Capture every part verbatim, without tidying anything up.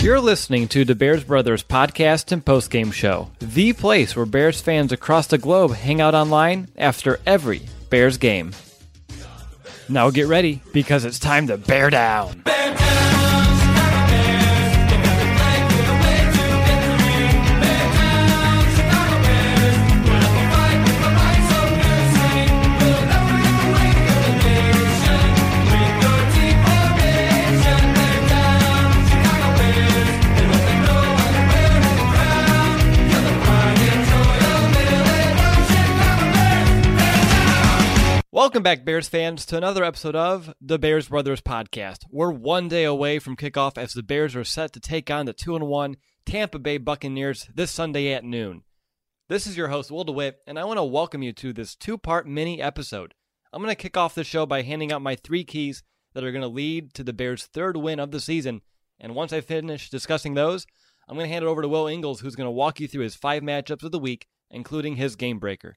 You're listening to the Bears Brothers podcast and postgame show, the place where Bears fans across the globe hang out online after every Bears game. Now get ready, because it's time to bear down. Bear down! Welcome back, Bears fans, to another episode of the Bears Brothers podcast. We're one day away from kickoff as the Bears are set to take on the two and one Tampa Bay Buccaneers this Sunday at noon. This is your host, Will DeWitt, and I want to welcome you to this two-part mini episode. I'm going to kick off the show by handing out my three keys that are going to lead to the Bears' third win of the season, and once I finish discussing those, I'm going to hand it over to Will Ingles, who's going to walk you through his five matchups of the week, including his game breaker.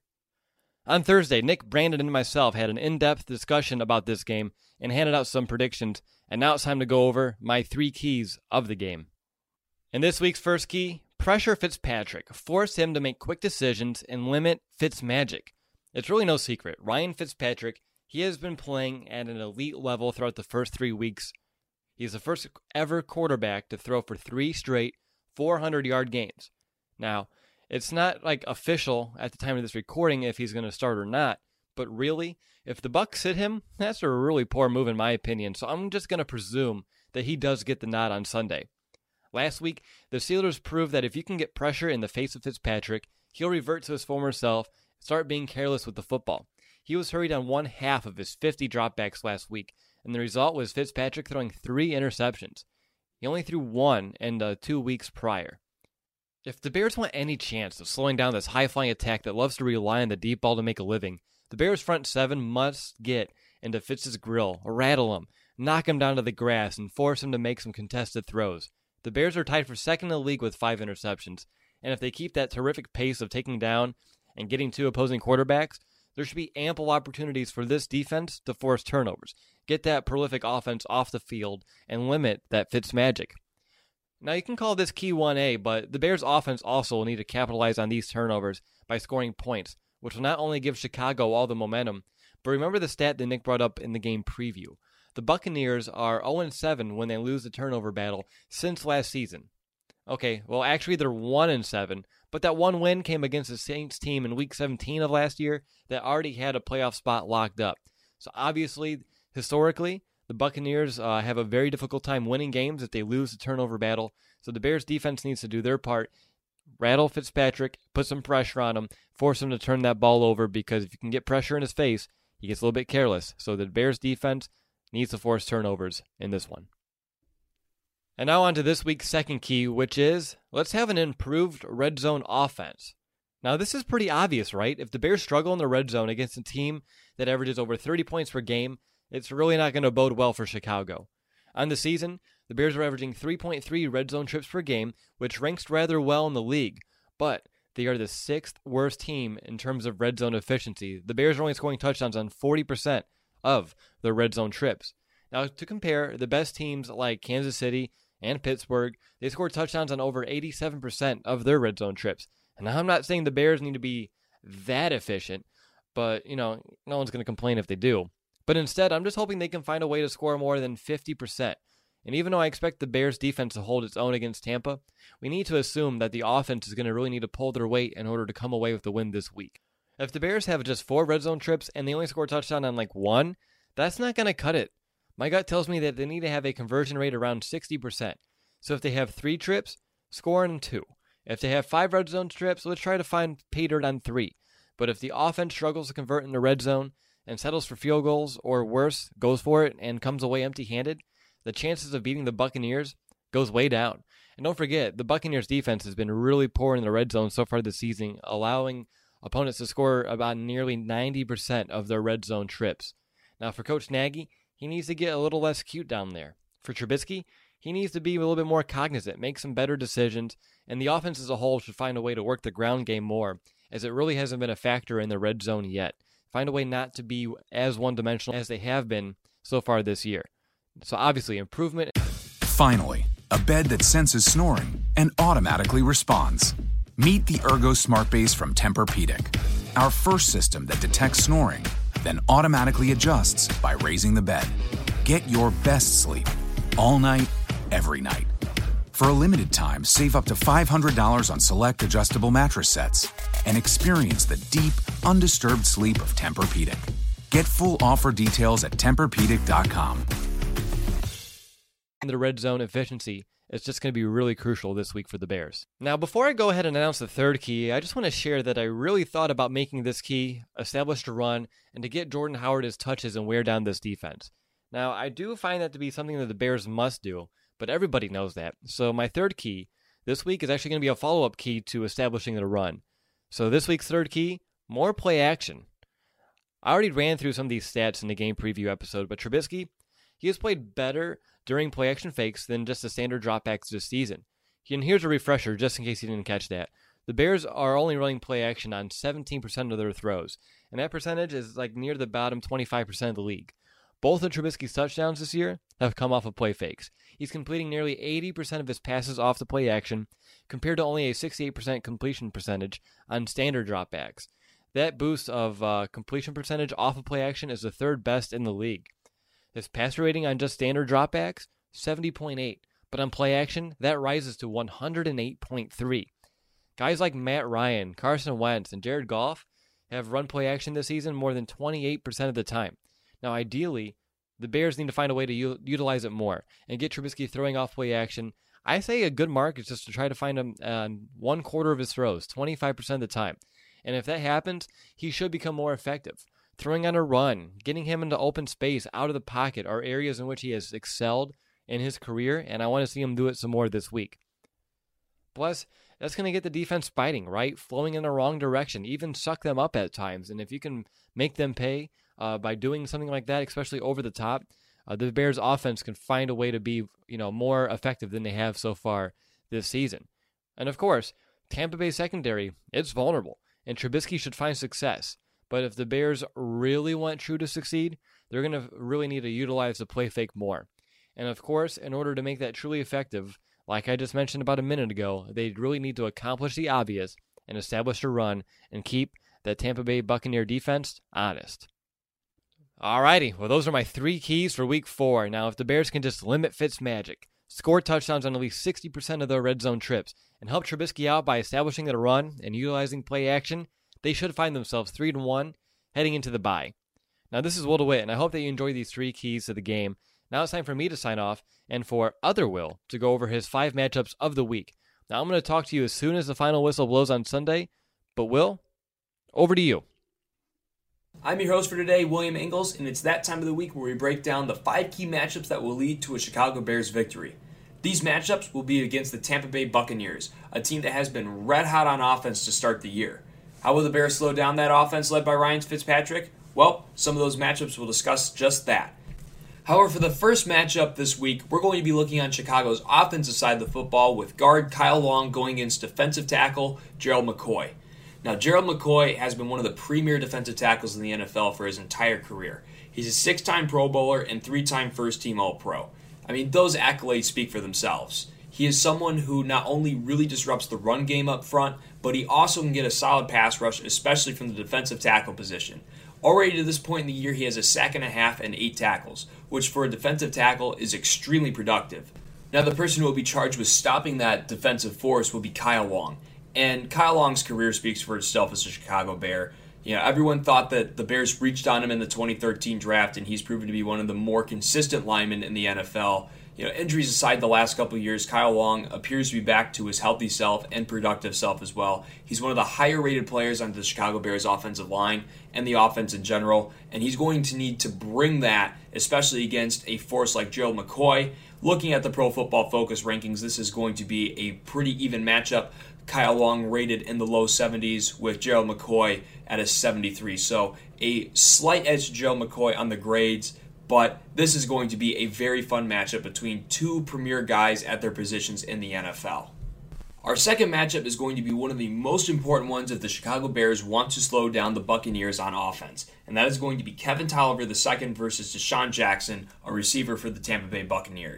On Thursday, Nick, Brandon, and myself had an in-depth discussion about this game and handed out some predictions, and now it's time to go over my three keys of the game. In this week's first key, pressure Fitzpatrick. Force him to make quick decisions and limit Fitzmagic. It's really no secret. Ryan Fitzpatrick, he has been playing at an elite level throughout the first three weeks. He's the first ever quarterback to throw for three straight four hundred yard games. Now, it's not like official at the time of this recording if he's going to start or not, but really, if the Bucs sit him, that's a really poor move in my opinion, so I'm just going to presume that he does get the nod on Sunday. Last week, the Steelers proved that if you can get pressure in the face of Fitzpatrick, he'll revert to his former self and start being careless with the football. He was hurried on one half of his fifty dropbacks last week, and the result was Fitzpatrick throwing three interceptions. He only threw one in the two weeks prior. If the Bears want any chance of slowing down this high-flying attack that loves to rely on the deep ball to make a living, the Bears' front seven must get into Fitz's grill, rattle him, knock him down to the grass, and force him to make some contested throws. The Bears are tied for second in the league with five interceptions, and if they keep that terrific pace of taking down and getting to opposing quarterbacks, there should be ample opportunities for this defense to force turnovers, get that prolific offense off the field, and limit that Fitzmagic. Now, you can call this key one A, but the Bears' offense also will need to capitalize on these turnovers by scoring points, which will not only give Chicago all the momentum, but remember the stat that Nick brought up in the game preview. The Buccaneers are oh and seven when they lose the turnover battle since last season. Okay, well, actually, they're one and seven, but that one win came against the Saints team in Week seventeen of last year that already had a playoff spot locked up. So obviously, historically, the Buccaneers uh, have a very difficult time winning games if they lose the turnover battle, so the Bears' defense needs to do their part, rattle Fitzpatrick, put some pressure on him, force him to turn that ball over, because if you can get pressure in his face, he gets a little bit careless. So the Bears' defense needs to force turnovers in this one. And now on to this week's second key, which is, let's have an improved red zone offense. Now this is pretty obvious, right? If the Bears struggle in the red zone against a team that averages over thirty points per game, it's really not going to bode well for Chicago. On the season, the Bears are averaging three point three red zone trips per game, which ranks rather well in the league, but they are the sixth worst team in terms of red zone efficiency. The Bears are only scoring touchdowns on forty percent of their red zone trips. Now, to compare, the best teams like Kansas City and Pittsburgh, they score touchdowns on over eighty-seven percent of their red zone trips. And now I'm not saying the Bears need to be that efficient, but, you know, no one's going to complain if they do. But instead, I'm just hoping they can find a way to score more than fifty percent. And even though I expect the Bears' defense to hold its own against Tampa, we need to assume that the offense is going to really need to pull their weight in order to come away with the win this week. If the Bears have just four red zone trips and they only score a touchdown on like one, that's not going to cut it. My gut tells me that they need to have a conversion rate around sixty percent. So if they have three trips, score on two. If they have five red zone trips, let's try to find pay dirt on three. But if the offense struggles to convert in the red zone and settles for field goals, or worse, goes for it and comes away empty-handed, the chances of beating the Buccaneers goes way down. And don't forget, the Buccaneers defense has been really poor in the red zone so far this season, allowing opponents to score about nearly ninety percent of their red zone trips. Now for Coach Nagy, he needs to get a little less cute down there. For Trubisky, he needs to be a little bit more cognizant, make some better decisions, and the offense as a whole should find a way to work the ground game more, as it really hasn't been a factor in the red zone yet. Find a way not to be as one-dimensional as they have been so far this year. So obviously, improvement. Finally, a bed that senses snoring and automatically responds. Meet the Ergo Smart Base from Tempur-Pedic, our first system that detects snoring, then automatically adjusts by raising the bed. Get your best sleep all night, every night. For a limited time, save up to five hundred dollars on select adjustable mattress sets and experience the deep, undisturbed sleep of Tempur-Pedic. Get full offer details at Tempur Pedic dot com. The red zone efficiency is just going to be really crucial this week for the Bears. Now, before I go ahead and announce the third key, I just want to share that I really thought about making this key establish a run and to get Jordan Howard his touches and wear down this defense. Now, I do find that to be something that the Bears must do, but everybody knows that. So my third key this week is actually going to be a follow-up key to establishing the run. So this week's third key, more play action. I already ran through some of these stats in the game preview episode, but Trubisky, he has played better during play action fakes than just the standard dropbacks this season. And here's a refresher, just in case you didn't catch that. The Bears are only running play action on seventeen percent of their throws, and that percentage is like near the bottom twenty-five percent of the league. Both of Trubisky's touchdowns this year have come off of play fakes. He's completing nearly eighty percent of his passes off the play action, compared to only a sixty-eight percent completion percentage on standard dropbacks. That boost of uh, completion percentage off of play action is the third best in the league. His passer rating on just standard dropbacks, seventy point eight, but on play action, that rises to one hundred eight point three. Guys like Matt Ryan, Carson Wentz, and Jared Goff have run play action this season more than twenty-eight percent of the time. Now, ideally, the Bears need to find a way to u- utilize it more and get Trubisky throwing off play action. I say a good mark is just to try to find him on one quarter of his throws, twenty-five percent of the time. And if that happens, he should become more effective. Throwing on a run, getting him into open space, out of the pocket, are areas in which he has excelled in his career, and I want to see him do it some more this week. Plus, that's going to get the defense fighting, right? Flowing in the wrong direction, even suck them up at times. And if you can make them pay uh, by doing something like that, especially over the top, uh, the Bears' offense can find a way to be, you know, more effective than they have so far this season. And of course, Tampa Bay secondary, it's vulnerable, and Trubisky should find success. But if the Bears really want True to succeed, they're going to really need to utilize the play fake more. And of course, in order to make that truly effective, like I just mentioned about a minute ago, they really need to accomplish the obvious and establish a run and keep that Tampa Bay Buccaneer defense honest. Alrighty, well those are my three keys for week four. Now if the Bears can just limit Fitzmagic, score touchdowns on at least sixty percent of their red zone trips, and help Trubisky out by establishing the run and utilizing play action, they should find themselves three to one heading into the bye. Now this is Will DeWitt, and I hope that you enjoy these three keys to the game. Now it's time for me to sign off and for other Will to go over his five matchups of the week. Now I'm going to talk to you as soon as the final whistle blows on Sunday, but Will, over to you. I'm your host for today, William Ingalls, and it's that time of the week where we break down the five key matchups that will lead to a Chicago Bears victory. These matchups will be against the Tampa Bay Buccaneers, a team that has been red hot on offense to start the year. How will the Bears slow down that offense led by Ryan Fitzpatrick? Well, some of those matchups will discuss just that. However, for the first matchup this week, we're going to be looking on Chicago's offensive side of the football with guard Kyle Long going against defensive tackle Gerald McCoy. Now, Gerald McCoy has been one of the premier defensive tackles in the N F L for his entire career. He's a six-time Pro Bowler and three-time first-team All-Pro. I mean, those accolades speak for themselves. He is someone who not only really disrupts the run game up front, but he also can get a solid pass rush, especially from the defensive tackle position. Already to this point in the year, he has a sack and a half and eight tackles, which for a defensive tackle is extremely productive. Now, the person who will be charged with stopping that defensive force will be Kyle Long. And Kyle Long's career speaks for itself as a Chicago Bear. You know, everyone thought that the Bears reached on him in the twenty thirteen draft, and he's proven to be one of the more consistent linemen in the N F L. You know, injuries aside the last couple of years, Kyle Long appears to be back to his healthy self and productive self as well. He's one of the higher rated players on the Chicago Bears offensive line and the offense in general, and he's going to need to bring that, especially against a force like Gerald McCoy. Looking at the Pro Football Focus rankings, this is going to be a pretty even matchup. Kyle Long rated in the low seventies with Gerald McCoy at a seventy-three. So a slight edge to Gerald McCoy on the grades, but this is going to be a very fun matchup between two premier guys at their positions in the N F L. Our second matchup is going to be one of the most important ones if the Chicago Bears want to slow down the Buccaneers on offense, and that is going to be Kevin Tolliver the second versus Deshaun Jackson, a receiver for the Tampa Bay Buccaneers.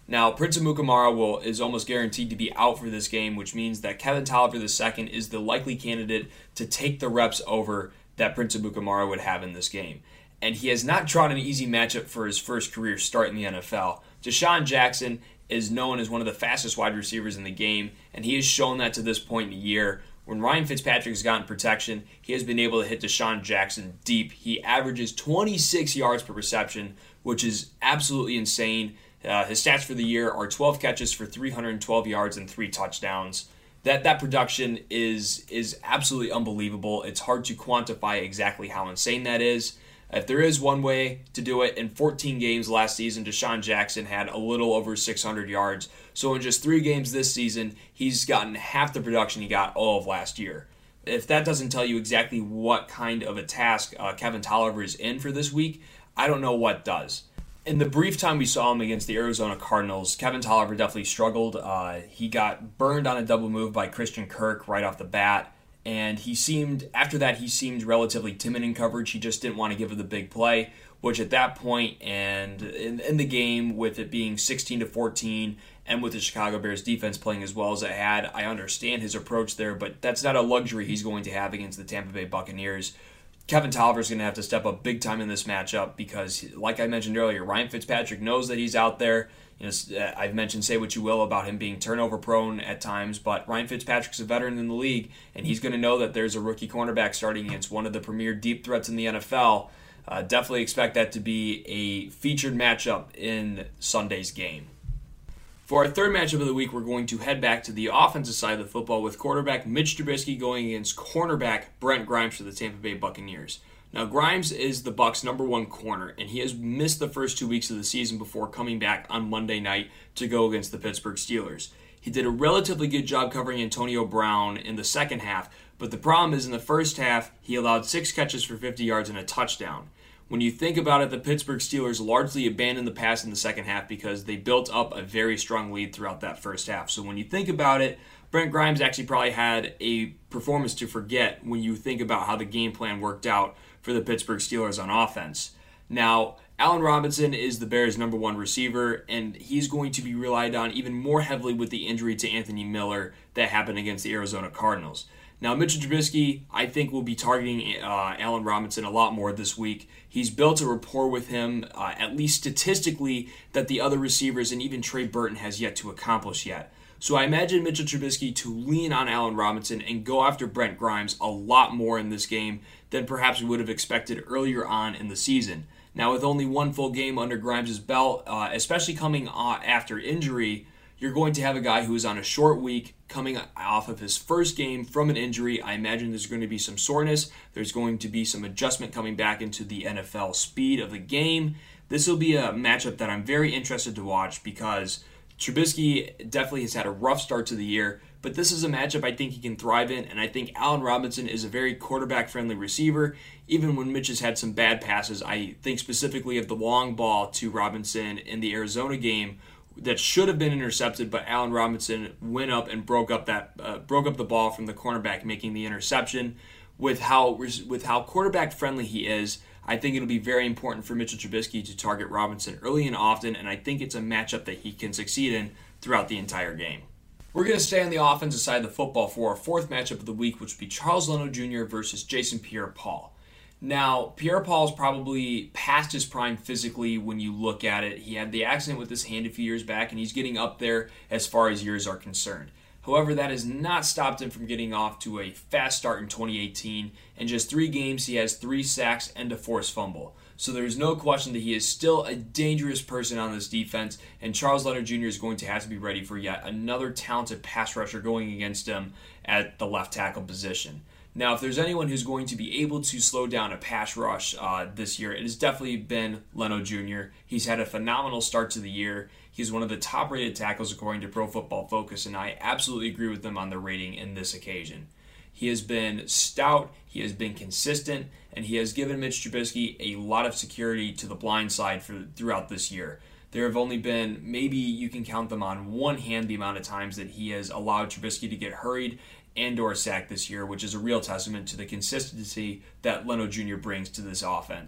Now, Prince Amukamara will is almost guaranteed to be out for this game, which means that Kevin Tolliver the second is the likely candidate to take the reps over that Prince Amukamara would have in this game. And he has not drawn an easy matchup for his first career start in the N F L. DeSean Jackson is known as one of the fastest wide receivers in the game, and he has shown that to this point in the year. When Ryan Fitzpatrick has gotten protection, he has been able to hit DeSean Jackson deep. He averages twenty-six yards per reception, which is absolutely insane. Uh, his stats for the year are twelve catches for three hundred twelve yards and three touchdowns. That that production is is absolutely unbelievable. It's hard to quantify exactly how insane that is. If there is one way to do it, in fourteen games last season, DeSean Jackson had a little over six hundred yards. So in just three games this season, he's gotten half the production he got all of last year. If that doesn't tell you exactly what kind of a task uh, Kevin Tolliver is in for this week, I don't know what does. In the brief time we saw him against the Arizona Cardinals, Kevin Tolliver definitely struggled. Uh, he got burned on a double move by Christian Kirk right off the bat. And he seemed, after that, he seemed relatively timid in coverage. He just didn't want to give her the big play, which at that point and in, in the game, with it being sixteen to fourteen, and with the Chicago Bears defense playing as well as it had, I understand his approach there, but that's not a luxury he's going to have against the Tampa Bay Buccaneers. Kevin Tolliver is going to have to step up big time in this matchup because, like I mentioned earlier, Ryan Fitzpatrick knows that he's out there. You know, I've mentioned, say what you will, about him being turnover prone at times, but Ryan Fitzpatrick's a veteran in the league, and he's going to know that there's a rookie cornerback starting against one of the premier deep threats in the N F L. Uh, definitely expect that to be a featured matchup in Sunday's game. For our third matchup of the week, we're going to head back to the offensive side of the football with quarterback Mitch Trubisky going against cornerback Brent Grimes for the Tampa Bay Buccaneers. Now, Grimes is the Bucs' number one corner, and he has missed the first two weeks of the season before coming back on Monday night to go against the Pittsburgh Steelers. He did a relatively good job covering Antonio Brown in the second half, but the problem is in the first half, he allowed six catches for fifty yards and a touchdown. When you think about it, the Pittsburgh Steelers largely abandoned the pass in the second half because they built up a very strong lead throughout that first half. So when you think about it, Brent Grimes actually probably had a performance to forget when you think about how the game plan worked out for the Pittsburgh Steelers on offense. Now, Allen Robinson is the Bears' number one receiver, and he's going to be relied on even more heavily with the injury to Anthony Miller that happened against the Arizona Cardinals. Now, Mitchell Trubisky, I think, will be targeting uh, Allen Robinson a lot more this week. He's built a rapport with him, uh, at least statistically, that the other receivers and even Trey Burton has yet to accomplish yet. So I imagine Mitchell Trubisky to lean on Allen Robinson and go after Brent Grimes a lot more in this game than perhaps we would have expected earlier on in the season. Now, with only one full game under Grimes' belt, uh, especially coming uh, after injury, you're going to have a guy who is on a short week coming off of his first game from an injury. I imagine there's going to be some soreness. There's going to be some adjustment coming back into the N F L speed of the game. This will be a matchup that I'm very interested to watch because Trubisky definitely has had a rough start to the year, but this is a matchup I think he can thrive in, and I think Allen Robinson is a very quarterback-friendly receiver. Even when Mitch has had some bad passes, I think specifically of the long ball to Robinson in the Arizona game that should have been intercepted, but Allen Robinson went up and broke up that uh, broke up the ball from the cornerback, making the interception. With how with how quarterback-friendly he is, I think it'll be very important for Mitchell Trubisky to target Robinson early and often, and I think it's a matchup that he can succeed in throughout the entire game. We're going to stay on the offensive side of the football for our fourth matchup of the week, which would be Charles Leno Junior versus Jason Pierre-Paul. Now, Pierre-Paul is probably past his prime physically when you look at it. He had the accident with his hand a few years back, and he's getting up there as far as years are concerned. However, that has not stopped him from getting off to a fast start in twenty eighteen. In just three games, he has three sacks and a forced fumble. So there's no question that he is still a dangerous person on this defense, and Charles Leno Junior is going to have to be ready for yet another talented pass rusher going against him at the left tackle position. Now, if there's anyone who's going to be able to slow down a pass rush uh, this year, it has definitely been Leno Junior He's had a phenomenal start to the year. He's one of the top-rated tackles according to Pro Football Focus, and I absolutely agree with them on the rating in this occasion. He has been stout, he has been consistent, and he has given Mitch Trubisky a lot of security to the blind side for throughout this year. There have only been, maybe you can count them on one hand, the amount of times that he has allowed Trubisky to get hurried and or sacked this year, which is a real testament to the consistency that Leno Junior brings to this offense.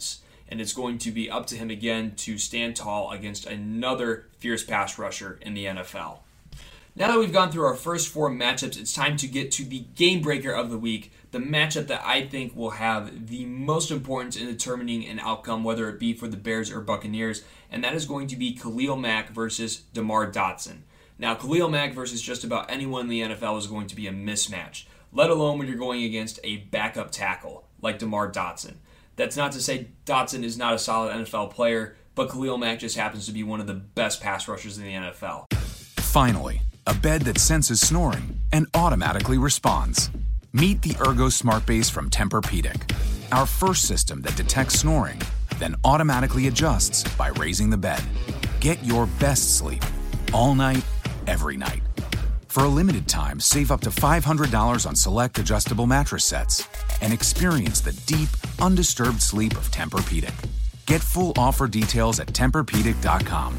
and it's going to be up to him again to stand tall against another fierce pass rusher in the N F L. Now that we've gone through our first four matchups, it's time to get to the game breaker of the week, the matchup that I think will have the most importance in determining an outcome, whether it be for the Bears or Buccaneers, and that is going to be Khalil Mack versus DeMar Dotson. Now, Khalil Mack versus just about anyone in the N F L is going to be a mismatch, let alone when you're going against a backup tackle like DeMar Dotson. That's not to say Dotson is not a solid N F L player, but Khalil Mack just happens to be one of the best pass rushers in the N F L. Finally, a bed that senses snoring and automatically responds. Meet the Ergo Smart Base from Tempur-Pedic, our first system that detects snoring, then automatically adjusts by raising the bed. Get your best sleep all night, every night. For a limited time, save up to five hundred dollars on select adjustable mattress sets and experience the deep, undisturbed sleep of Tempur-Pedic. Get full offer details at Tempur Pedic dot com.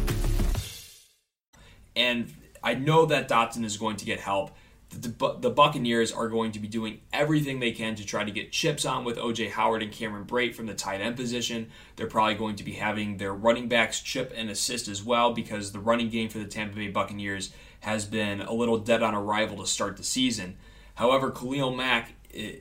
And I know that Dotson is going to get help. The, the Buccaneers are going to be doing everything they can to try to get chips on with O J Howard and Cameron Brate from the tight end position. They're probably going to be having their running backs chip and assist as well, because the running game for the Tampa Bay Buccaneers has been a little dead on arrival to start the season. However, Khalil Mack,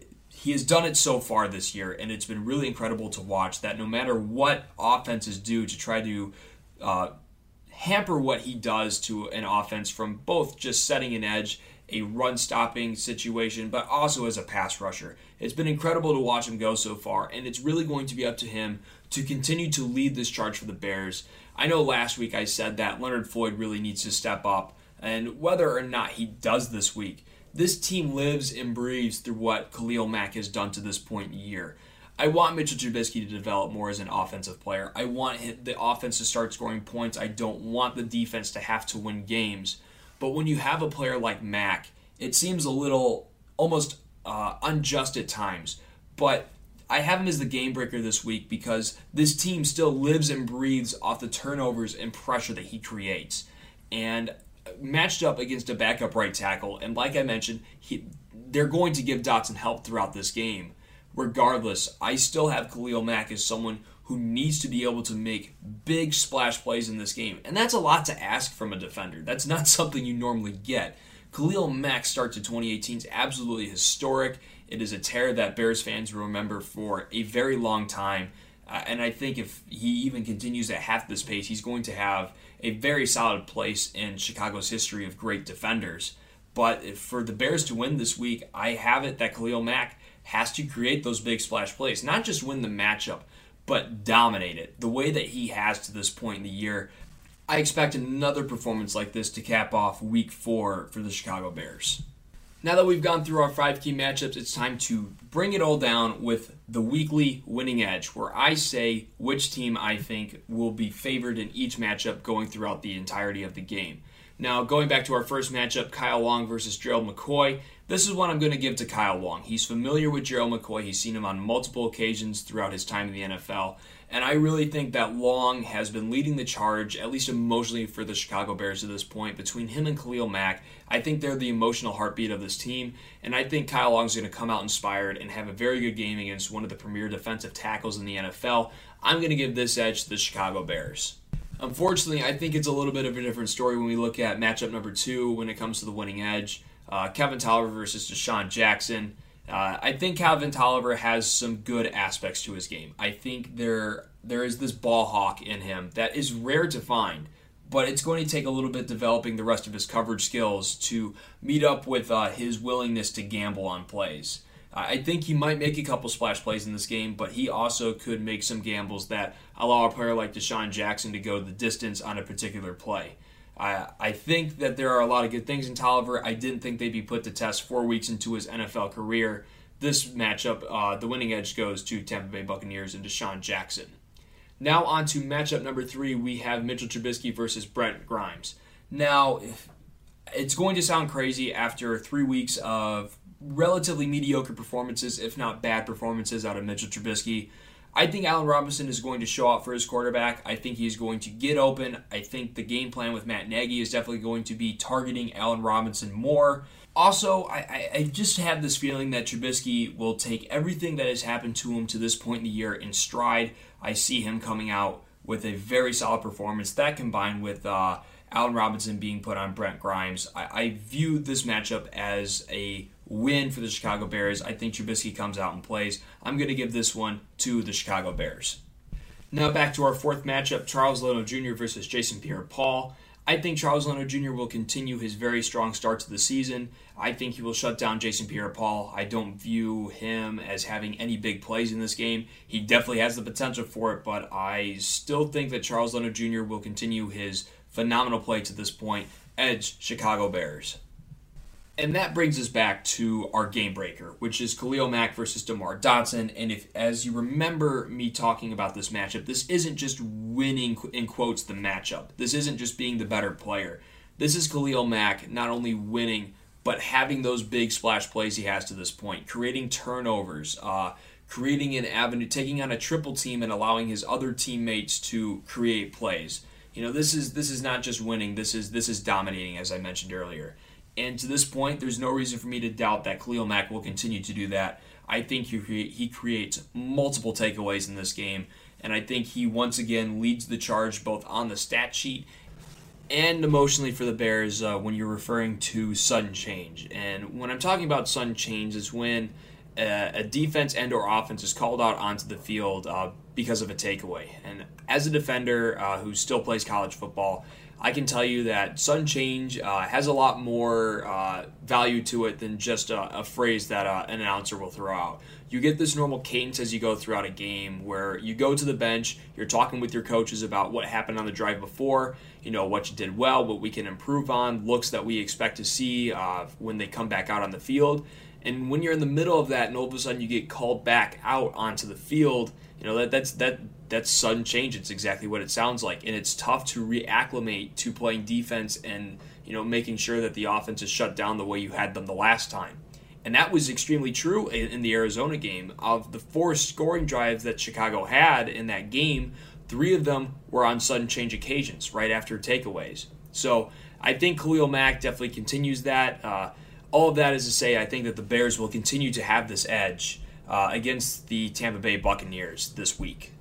he has done it so far this year, and it's been really incredible to watch that no matter what offenses do to try to uh, hamper what he does to an offense, from both just setting an edge, a run-stopping situation, but also as a pass rusher. It's been incredible to watch him go so far, and it's really going to be up to him to continue to lead this charge for the Bears. I know last week I said that Leonard Floyd really needs to step up, and whether or not he does this week, this team lives and breathes through what Khalil Mack has done to this point in the year. I want Mitchell Trubisky to develop more as an offensive player. I want the offense to start scoring points. I don't want the defense to have to win games. But when you have a player like Mack, it seems a little almost uh, unjust at times. But I have him as the game breaker this week because this team still lives and breathes off the turnovers and pressure that he creates. And matched up against a backup right tackle, and like I mentioned, he, they're going to give Dotson help throughout this game. Regardless, I still have Khalil Mack as someone who needs to be able to make big splash plays in this game. And that's a lot to ask from a defender. That's not something you normally get. Khalil Mack's start to twenty eighteen is absolutely historic. It is a tear that Bears fans will remember for a very long time. Uh, and I think if he even continues at half this pace, he's going to have a very solid place in Chicago's history of great defenders. But if for the Bears to win this week, I have it that Khalil Mack has to create those big splash plays. Not just win the matchup, but dominate it the way that he has to this point in the year. I expect another performance like this to cap off week four for the Chicago Bears. Now that we've gone through our five key matchups, it's time to bring it all down with the weekly winning edge, where I say which team I think will be favored in each matchup going throughout the entirety of the game. Now, going back to our first matchup, Kyle Long versus Gerald McCoy, this is one I'm going to give to Kyle Long. He's familiar with Gerald McCoy. He's seen him on multiple occasions throughout his time in the N F L. And I really think that Long has been leading the charge, at least emotionally, for the Chicago Bears to this point. Between him and Khalil Mack, I think they're the emotional heartbeat of this team. And I think Kyle Long's going to come out inspired and have a very good game against one of the premier defensive tackles in the N F L. I'm going to give this edge to the Chicago Bears. Unfortunately, I think it's a little bit of a different story when we look at matchup number two when it comes to the winning edge. Uh, Kevin Tolliver versus Deshaun Jackson. Uh, I think Kevin Tolliver has some good aspects to his game. I think there there is this ball hawk in him that is rare to find, but it's going to take a little bit developing the rest of his coverage skills to meet up with uh, his willingness to gamble on plays. Uh, I think he might make a couple splash plays in this game, but he also could make some gambles that allow a player like Deshaun Jackson to go the distance on a particular play. I, I think that there are a lot of good things in Tolliver. I didn't think they'd be put to test four weeks into his N F L career. This matchup, uh, the winning edge goes to Tampa Bay Buccaneers and Deshaun Jackson. Now on to matchup number three, we have Mitchell Trubisky versus Brent Grimes. Now, it's going to sound crazy after three weeks of relatively mediocre performances, if not bad performances, out of Mitchell Trubisky. I think Allen Robinson is going to show out for his quarterback. I think he's going to get open. I think the game plan with Matt Nagy is definitely going to be targeting Allen Robinson more. Also, I, I, I just have this feeling that Trubisky will take everything that has happened to him to this point in the year in stride. I see him coming out with a very solid performance. That combined with uh, Allen Robinson being put on Brent Grimes, I, I view this matchup as a win for the Chicago Bears. I think Trubisky comes out and plays. I'm going to give this one to the Chicago Bears. Now back to our fourth matchup, Charles Leno Junior versus Jason Pierre-Paul. I think Charles Leno Junior will continue his very strong start to the season. I think he will shut down Jason Pierre-Paul. I don't view him as having any big plays in this game. He definitely has the potential for it, but I still think that Charles Leno Junior will continue his phenomenal play to this point. Edge, Chicago Bears. And that brings us back to our game breaker, which is Khalil Mack versus DeMar Dotson. And if, as you remember me talking about this matchup, this isn't just winning, in quotes, the matchup. This isn't just being the better player. This is Khalil Mack not only winning, but having those big splash plays he has to this point, creating turnovers, uh, creating an avenue, taking on a triple team and allowing his other teammates to create plays. You know, this is this is not just winning. This is this is dominating, as I mentioned earlier. And to this point, there's no reason for me to doubt that Khalil Mack will continue to do that. I think he, cre- he creates multiple takeaways in this game, and I think he once again leads the charge both on the stat sheet and emotionally for the Bears uh, when you're referring to sudden change. And when I'm talking about sudden change, is when a, a defense and or offense is called out onto the field uh, because of a takeaway. And as a defender uh, who still plays college football, I can tell you that sudden change uh, has a lot more uh, value to it than just a, a phrase that uh, an announcer will throw out. You get this normal cadence as you go throughout a game where you go to the bench, you're talking with your coaches about what happened on the drive before, you know, what you did well, what we can improve on, looks that we expect to see uh, when they come back out on the field. And when you're in the middle of that and all of a sudden you get called back out onto the field, you know, that that's that that's sudden change. It's exactly what it sounds like. And it's tough to reacclimate to playing defense and, you know, making sure that the offense is shut down the way you had them the last time. And that was extremely true in, in the Arizona game. Of the four scoring drives that Chicago had in that game, three of them were on sudden change occasions, right after takeaways. So I think Khalil Mack definitely continues that. Uh, all of that is to say, I think that the Bears will continue to have this edge uh, against the Tampa Bay Buccaneers this week.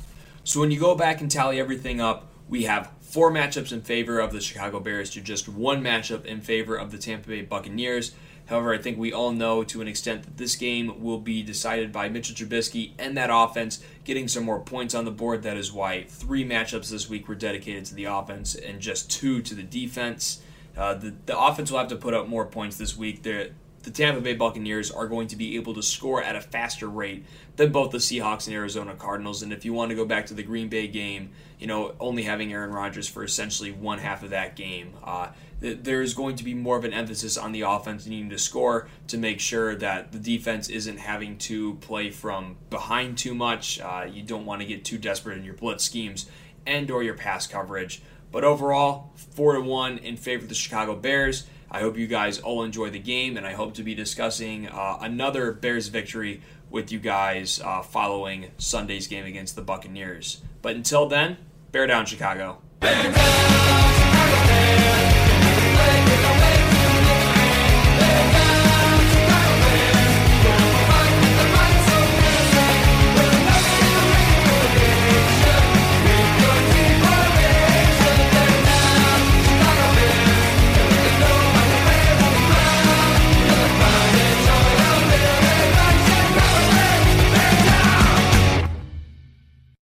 So when you go back and tally everything up, we have four matchups in favor of the Chicago Bears to just one matchup in favor of the Tampa Bay Buccaneers. However, I think we all know to an extent that this game will be decided by Mitchell Trubisky and that offense getting some more points on the board. That is why three matchups this week were dedicated to the offense and just two to the defense. Uh, the, the offense will have to put up more points this week. They're, the Tampa Bay Buccaneers are going to be able to score at a faster rate than both the Seahawks and Arizona Cardinals. And if you want to go back to the Green Bay game, you know, only having Aaron Rodgers for essentially one half of that game, uh, th- there's going to be more of an emphasis on the offense needing to score to make sure that the defense isn't having to play from behind too much. Uh, you don't want to get too desperate in your blitz schemes and or your pass coverage. But overall, four to one in favor of the Chicago Bears. I hope you guys all enjoy the game, and I hope to be discussing uh, another Bears victory with you guys uh, following Sunday's game against the Buccaneers. But until then, bear down, Chicago. Bear down!